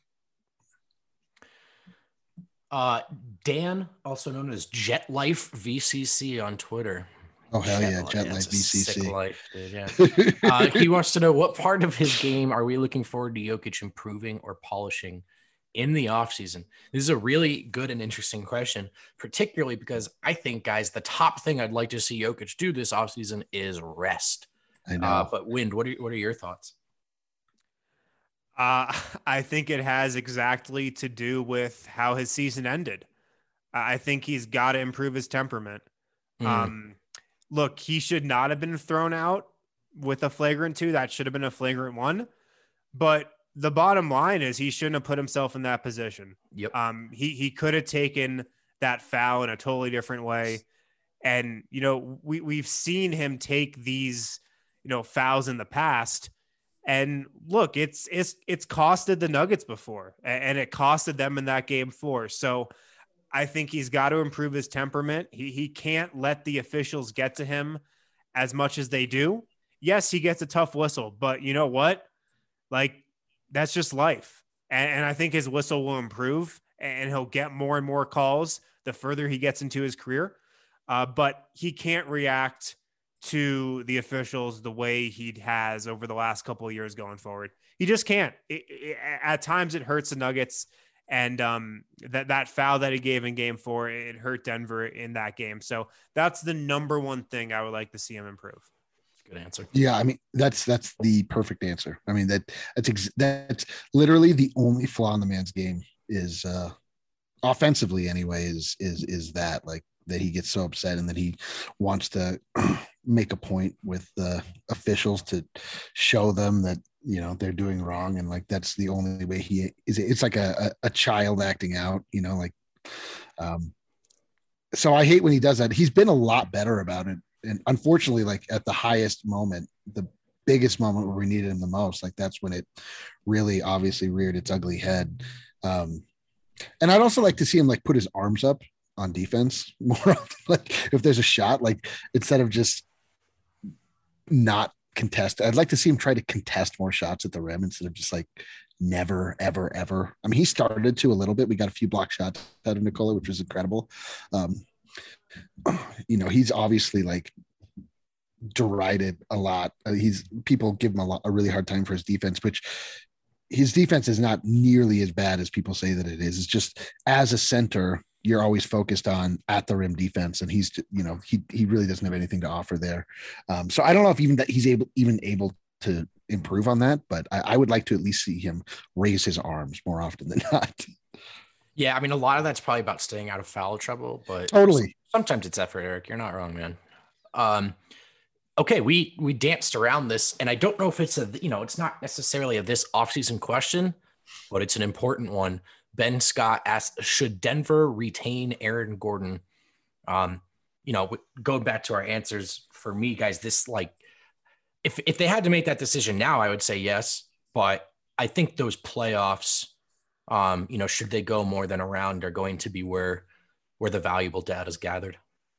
Uh, Dan, also known as Jet Life V C C on Twitter. Oh, hell Jet yeah. Life. Jet yeah, Life V C C. Sick life, dude. Yeah. uh, he wants to know, what part of his game are we looking forward to Jokic improving or polishing in the offseason? This is a really good and interesting question, particularly because I think, guys, the top thing I'd like to see Jokic do this offseason is rest. I know. Uh, but Wind, what are, what are your thoughts? Uh, I think it has exactly to do with how his season ended. I think he's got to improve his temperament. Mm. Um, look, he should not have been thrown out with a flagrant two. That should have been a flagrant one. But the bottom line is he shouldn't have put himself in that position. Yep. Um, he, he could have taken that foul in a totally different way. And, you know, we, we've seen him take these, you know, fouls in the past. And look, it's it's it's costed the Nuggets before, and it costed them in that game four. So I think he's got to improve his temperament. He he can't let the officials get to him as much as they do. Yes, he gets a tough whistle, but you know what? Like, that's just life. And, and I think his whistle will improve, and he'll get more and more calls the further he gets into his career. Uh, but he can't react to the officials the way he has over the last couple of years going forward. He just can't. It, it, at times it hurts the Nuggets, and um, that, that foul that he gave in game four, it hurt Denver in that game. So that's the number one thing I would like to see him improve. Good answer. Yeah. I mean, that's, that's the perfect answer. I mean, that that's, ex- that's literally the only flaw in the man's game is uh, offensively anyway, is, is, is that like, that he gets so upset and that he wants to make a point with the officials to show them that, you know, they're doing wrong. And like, that's the only way he is. It's like a, a, a child acting out, you know, like, um, so I hate when he does that. He's been a lot better about it. And unfortunately, like at the highest moment, the biggest moment where we needed him the most, like that's when it really obviously reared its ugly head. Um, and I'd also like to see him like put his arms up on defense more often. Like if there's a shot, like instead of just not contest, I'd like to see him try to contest more shots at the rim instead of just like never, ever, ever. I mean, he started to a little bit. We got a few block shots out of Nikola, which was incredible. Um, you know, he's obviously like derided a lot. Uh, he's people give him a lot, a really hard time for his defense, which his defense is not nearly as bad as people say that it is. It's just as a center, you're always focused on at the rim defense, and he's, you know, he he really doesn't have anything to offer there. Um, so I don't know if even that he's able even able to improve on that, but I, I would like to at least see him raise his arms more often than not. Yeah, I mean, a lot of that's probably about staying out of foul trouble, but totally. Sometimes it's effort, Eric. You're not wrong, man. Um, okay, we we danced around this, and I don't know if it's a, you know, it's not necessarily a this offseason question, but it's an important one. Ben Scott asked, should Denver retain Aaron Gordon? Um, you know, going back to our answers, for me, guys, this like, if if they had to make that decision now, I would say yes. But I think those playoffs, um, you know, should they go more than a round, are going to be where where the valuable data is gathered.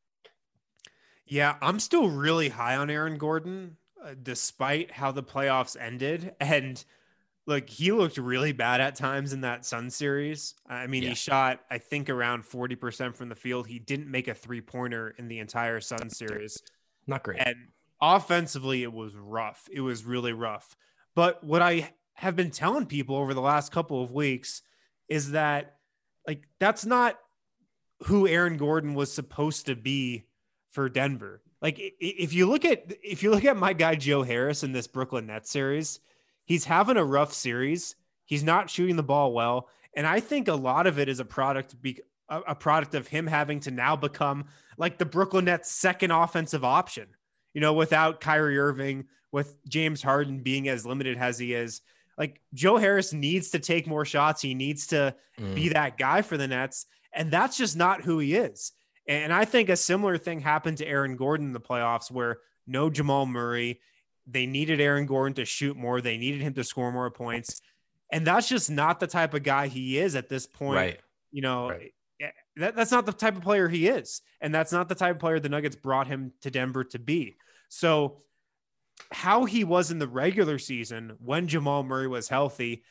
Yeah, I'm still really high on Aaron Gordon, uh, despite how the playoffs ended. And look, he looked really bad at times in that Sun series. I mean, yeah. He shot, I think, around forty percent from the field. He didn't make a three-pointer in the entire Sun series. Not great. And offensively, it was rough. It was really rough. But what I have been telling people over the last couple of weeks is that, like, that's not who Aaron Gordon was supposed to be for Denver. Like, if you look at if you look at my guy Joe Harris in this Brooklyn Nets series, he's having a rough series. He's not shooting the ball well, and I think a lot of it is a product be a product of him having to now become like the Brooklyn Nets' second offensive option. You know, without Kyrie Irving, with James Harden being as limited as he is, like Joe Harris needs to take more shots. He needs to mm. be that guy for the Nets, and that's just not who he is. And I think a similar thing happened to Aaron Gordon in the playoffs, where no Jamal Murray, They needed Aaron Gordon to shoot more. They needed him to score more points. And that's just not the type of guy he is at this point. Right. You know, Right. that, that's not the type of player he is. And that's not the type of player the Nuggets brought him to Denver to be. So how he was in the regular season when Jamal Murray was healthy,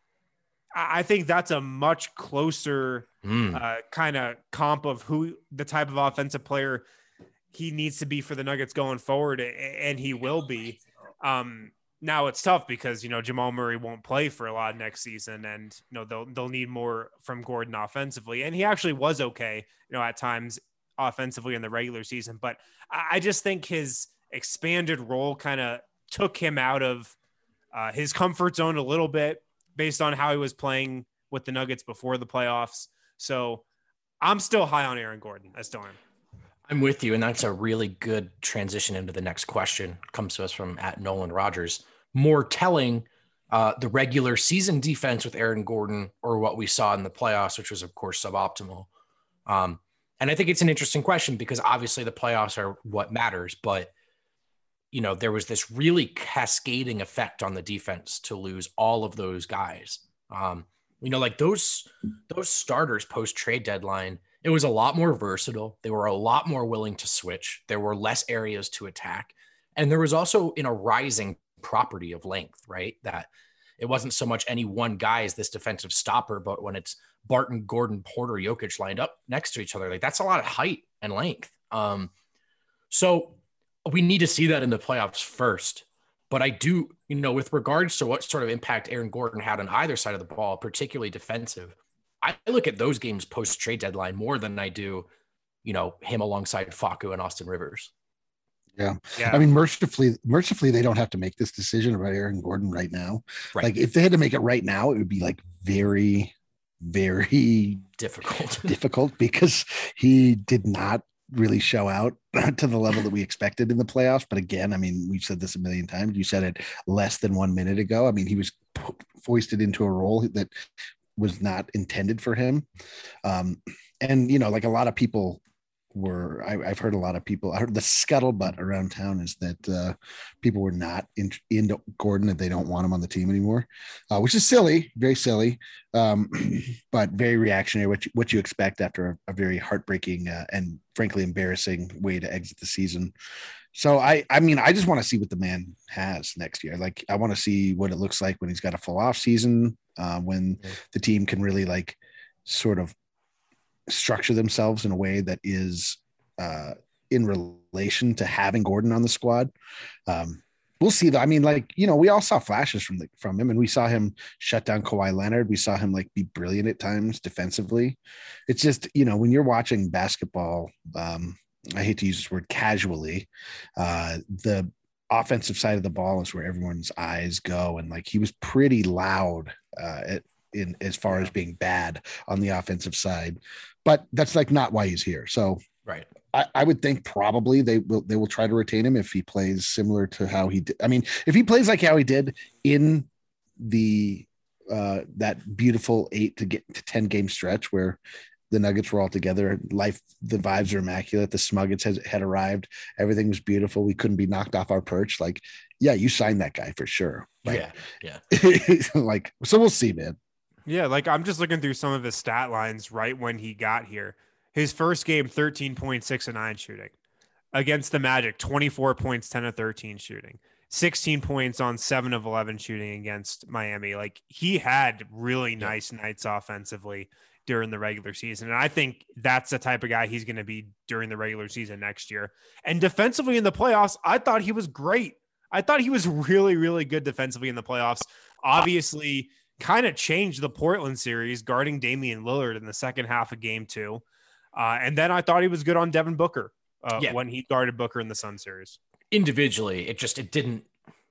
I think that's a much closer Mm. uh, kind of comp of who the type of offensive player he needs to be for the Nuggets going forward. And he will be. Um, Now it's tough because, you know, Jamal Murray won't play for a lot next season, and, you know, they'll, they'll need more from Gordon offensively. And he actually was okay, you know, at times offensively in the regular season, but I just think his expanded role kind of took him out of uh, his comfort zone a little bit based on how he was playing with the Nuggets before the playoffs. So I'm still high on Aaron Gordon. I still am. I'm with you. And that's a really good transition into the next question. It comes to us from at Nolan Rogers. More telling, uh, the regular season defense with Aaron Gordon or what we saw in the playoffs, which was, of course, suboptimal. Um, and I think it's an interesting question because obviously the playoffs are what matters. But, you know, there was this really cascading effect on the defense to lose all of those guys. Um, you know, like those those starters post trade deadline, it was a lot more versatile. They were a lot more willing to switch. There were less areas to attack. And there was also in a rising property of length, right? That it wasn't so much any one guy as this defensive stopper, but when it's Barton, Gordon, Porter, Jokic lined up next to each other, like that's a lot of height and length. Um, so we need to see that in the playoffs first. But I do, you know, with regards to what sort of impact Aaron Gordon had on either side of the ball, particularly defensive, I look at those games post trade deadline more than I do, you know, him alongside Facu and Austin Rivers. Yeah. Yeah. I mean, mercifully, mercifully, they don't have to make this decision about Aaron Gordon right now. Right. Like if they had to make it right now, it would be like very, very Difficult. difficult because he did not really show out to the level that we expected in the playoffs. But again, I mean, we've said this a million times. You said it less than one minute ago. I mean, he was foisted into a role that was not intended for him. Um, and, you know, like a lot of people were, I, I've heard a lot of people, I heard the scuttlebutt around town is that uh, people were not in, into Gordon, that they don't want him on the team anymore, uh, which is silly, very silly, um, but very reactionary, what you, what you expect after a, a very heartbreaking uh, and frankly embarrassing way to exit the season. So I, I mean, I just want to see what the man has next year. Like, I want to see what it looks like when he's got a full off season, uh, when mm-hmm. the team can really like sort of structure themselves in a way that is uh, in relation to having Gordon on the squad. Um, we'll see that. I mean, like, you know, we all saw flashes from the, from him, and we saw him shut down Kawhi Leonard. We saw him like be brilliant at times defensively. It's just, you know, when you're watching basketball, um, I hate to use this word casually, uh, the offensive side of the ball is where everyone's eyes go. And like, he was pretty loud uh, at, in as far as being bad on the offensive side, but that's like not why he's here. So Right. I, I would think probably they will, they will try to retain him if he plays similar to how he did. I mean, if he plays like how he did in the, uh, that beautiful eight to get to ten game stretch where the Nuggets were all together, life, the vibes are immaculate. The Smuggets has, had arrived. Everything was beautiful. We couldn't be knocked off our perch. Like, yeah, you signed that guy for sure. Like, yeah. Yeah. like, so we'll see, man. Yeah, like I'm just looking through some of his stat lines right when he got here. His first game, thirteen point six and nine shooting. Against the Magic, twenty-four points, ten of thirteen shooting. sixteen points on seven of eleven shooting against Miami. Like, he had really nice nights offensively during the regular season. And I think that's the type of guy he's going to be during the regular season next year. And defensively in the playoffs, I thought he was great. I thought he was really, really good defensively in the playoffs. Obviously, kind of changed the Portland series, guarding Damian Lillard in the second half of game two. Uh, and then I thought he was good on Devin Booker uh, yeah. when he guarded Booker in the Sun series. Individually, it just, it didn't,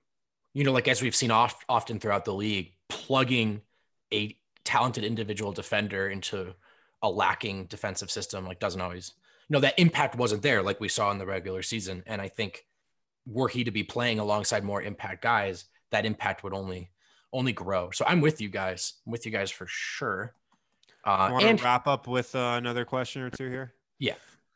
you know, like as we've seen oft, often throughout the league, plugging a talented individual defender into a lacking defensive system, like doesn't always, you know, that impact wasn't there like we saw in the regular season. And I think were he to be playing alongside more impact guys, that impact would only only grow. So I'm with you guys. I'm with you guys for sure. Uh, Want and to wrap up with uh, another question or two here? Yeah.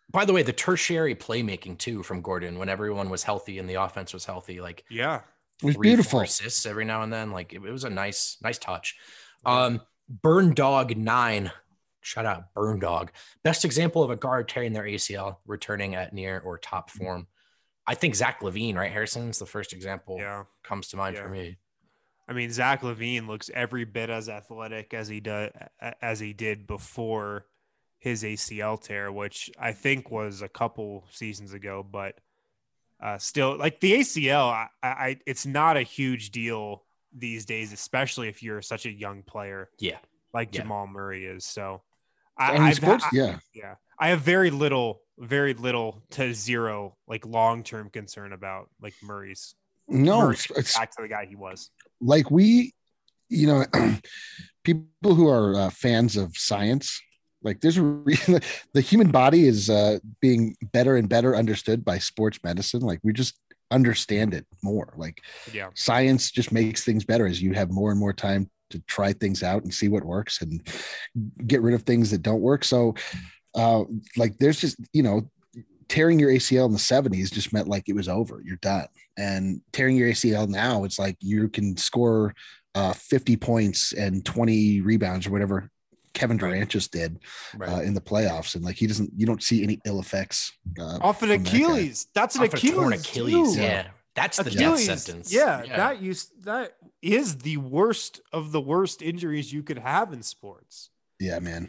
By the way, the tertiary playmaking too from Gordon when everyone was healthy and the offense was healthy, like yeah, it was three, beautiful. Four assists every now and then. Like it, it was a nice, nice touch. Um, Burn Dog nine. Shout out Burn Dog. Best example of a guard tearing their A C L, returning at near or top form. I think Zach LaVine, right? Harrison's the first example. Yeah, comes to mind yeah. for me. I mean, Zach LaVine looks every bit as athletic as he does as he did before his A C L tear, which I think was a couple seasons ago, but uh, still, like the A C L, I, I it's not a huge deal these days, especially if you're such a young player. Yeah, like yeah. Jamal Murray is. So, I, I, mean, I've sports, I, yeah, yeah, I have very little, very little to zero like long term concern about like Murray's. No, Murray's it's back to the guy he was. Like we, you know, people who are uh, fans of science, like there's a re- the human body is uh, being better and better understood by sports medicine. Like we just understand it more. Like yeah, science just makes things better as you have more and more time to try things out and see what works and get rid of things that don't work. So, uh, like there's just, you know, tearing your A C L in the seventies just meant like it was over. You're done. And tearing your A C L now, it's like you can score uh, fifty points and twenty rebounds or whatever Kevin Durant right. just did right. uh, in the playoffs. And like he doesn't, you don't see any ill effects. Uh, Off an Achilles. That That's an Off Achilles. Achilles. Too. Yeah. That's the Achilles, death sentence. Yeah, yeah. That used, that is the worst of the worst injuries you could have in sports. Yeah, man.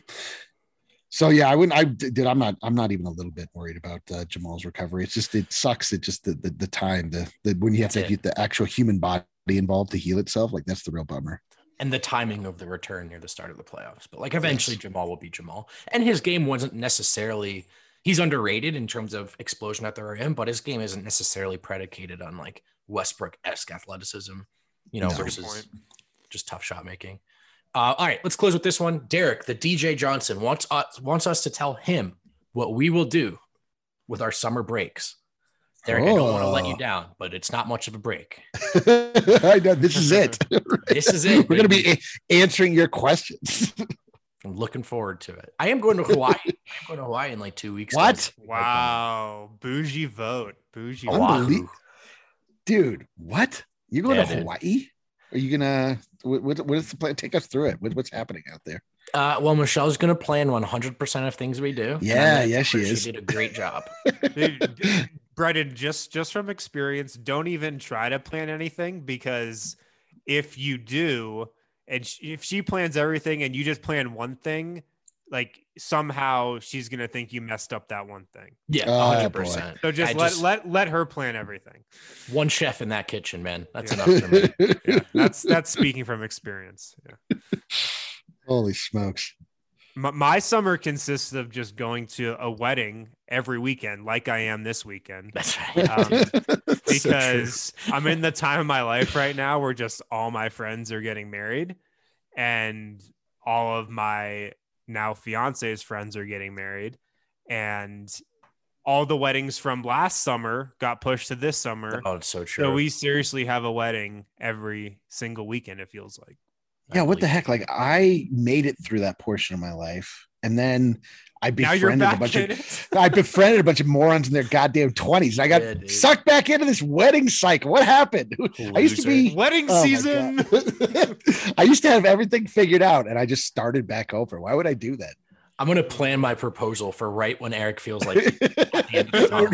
So yeah, I wouldn't. I did. I'm not. I'm not even a little bit worried about uh, Jamal's recovery. It's just it sucks. It just the the, the time the, the when you have that's to it. get the actual human body involved to heal itself. Like that's the real bummer. And the timing of the return near the start of the playoffs. But like eventually yes. Jamal will be Jamal. And his game wasn't necessarily. He's underrated in terms of explosion at the rim, but his game isn't necessarily predicated on like Westbrook-esque athleticism, you know, no. versus just tough shot making. Uh, all right, let's close with this one. Derek, the D J Johnson, wants us, wants us to tell him what we will do with our summer breaks. Derek, oh. I don't want to let you down, but it's not much of a break. I know, this is it. This is it. We're going to be a- answering your questions. I'm looking forward to it. I am going to Hawaii. I'm going to Hawaii in like two weeks. What? Wow. Bougie vote. Bougie vote. Dude, what? You're going yeah, to Hawaii? Dude. Are you gonna? What, what is the plan? Take us through it. What, what's happening out there? Uh, well, Michelle's gonna plan one hundred percent of things we do. Yeah, yeah, she is. She did a great job. Dude, Brendan, just just from experience, don't even try to plan anything because if you do, and she, if she plans everything and you just plan one thing, like somehow she's gonna think you messed up that one thing. Yeah, one hundred percent. So just I let just, let let her plan everything. One chef in that kitchen, man. That's yeah. enough for me. Yeah, that's that's speaking from experience. Yeah. Holy smokes. My, my summer consists of just going to a wedding every weekend, like I am this weekend. That's right. Um, because so I'm in the time of my life right now where just all my friends are getting married, and all of my now fiance's friends are getting married, and all the weddings from last summer got pushed to this summer. Oh, it's so true. So we seriously have a wedding every single weekend. It feels like. Yeah. What the heck? Like I made it through that portion of my life. And then I befriended a bunch of, I befriended a bunch of morons in their goddamn twenties. And I got yeah, sucked back into this wedding cycle. What happened? Loser. I used to be wedding oh season. I used to have everything figured out and I just started back over. Why would I do that? I'm going to plan my proposal for right when Eric feels like at the end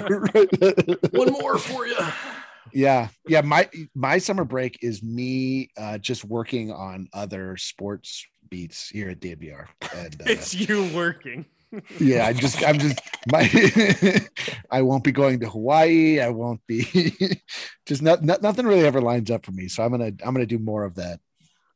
of the one more for you. Yeah. Yeah. My, my summer break is me uh, just working on other sports beats here at D N V R. And, uh, it's you working. Yeah. I just, I'm just, my, I won't be going to Hawaii. I won't be just not, not, nothing really ever lines up for me. So I'm going to, I'm going to do more of that.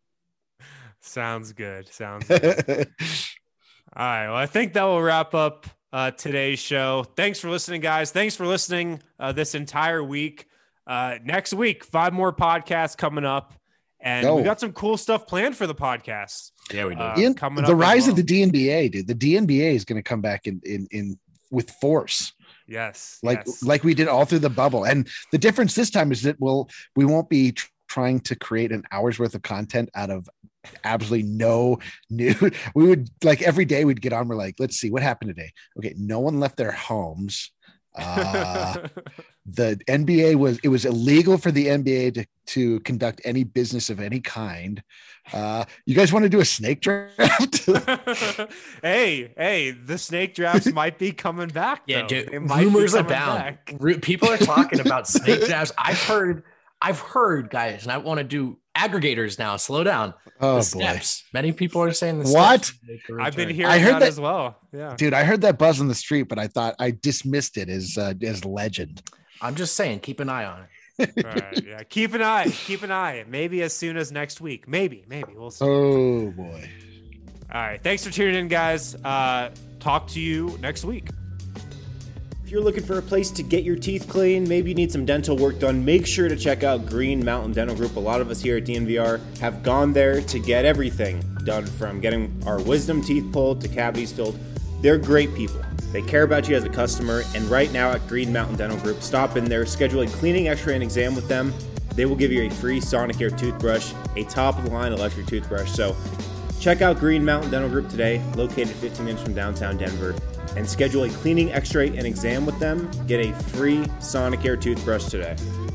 Sounds good. Sounds good. All right. Well, I think that will wrap up uh, today's show. Thanks for listening, guys. Thanks for listening uh, this entire week. Uh, next week, five more podcasts coming up, and Yo. we got some cool stuff planned for the podcast. Yeah, we do. Uh, in, coming the up rise well. of the D N B A, dude. The D N B A is going to come back in in in with force. Yes, like yes. like we did all through the bubble. And the difference this time is that we'll we won't be tr- trying to create an hour's worth of content out of absolutely no new. We would like every day we'd get on. We're like, let's see what happened today. Okay, no one left their homes. Uh, the N B A was it was illegal for the N B A to to conduct any business of any kind. Uh, you guys want to do a snake draft? hey, hey, the snake drafts might be coming back. Yeah, though. dude. It might Rumors be are coming down. back. Ru- People are talking about snake drafts. I've heard, I've heard, guys, and I want to do aggregators now. Slow down. Oh the boy. steps. Many people are saying the What? steps make a I've been return. hearing I heard that, that- as well. Yeah. Dude, I heard that buzz on the street, but I thought I dismissed it as uh, as legend. I'm just saying, keep an eye on it. Right, yeah. Keep an eye. Keep an eye. Maybe as soon as next week. Maybe. Maybe we'll see. Oh boy. All right. Thanks for tuning in, guys. Uh, talk to you next week. If you're looking for a place to get your teeth clean, maybe you need some dental work done, make sure to check out Green Mountain Dental Group. A lot of us here at D N V R have gone there to get everything done, from getting our wisdom teeth pulled to cavities filled. They're great people. They care about you as a customer, and right now at Green Mountain Dental Group, stop in there, schedule a cleaning, x-ray, and exam with them. They will give you a free Sonicare toothbrush, a top-of-the-line electric toothbrush. So check out Green Mountain Dental Group today, located fifteen minutes from downtown Denver, and schedule a cleaning, x-ray, and exam with them. Get a free Sonicare toothbrush today.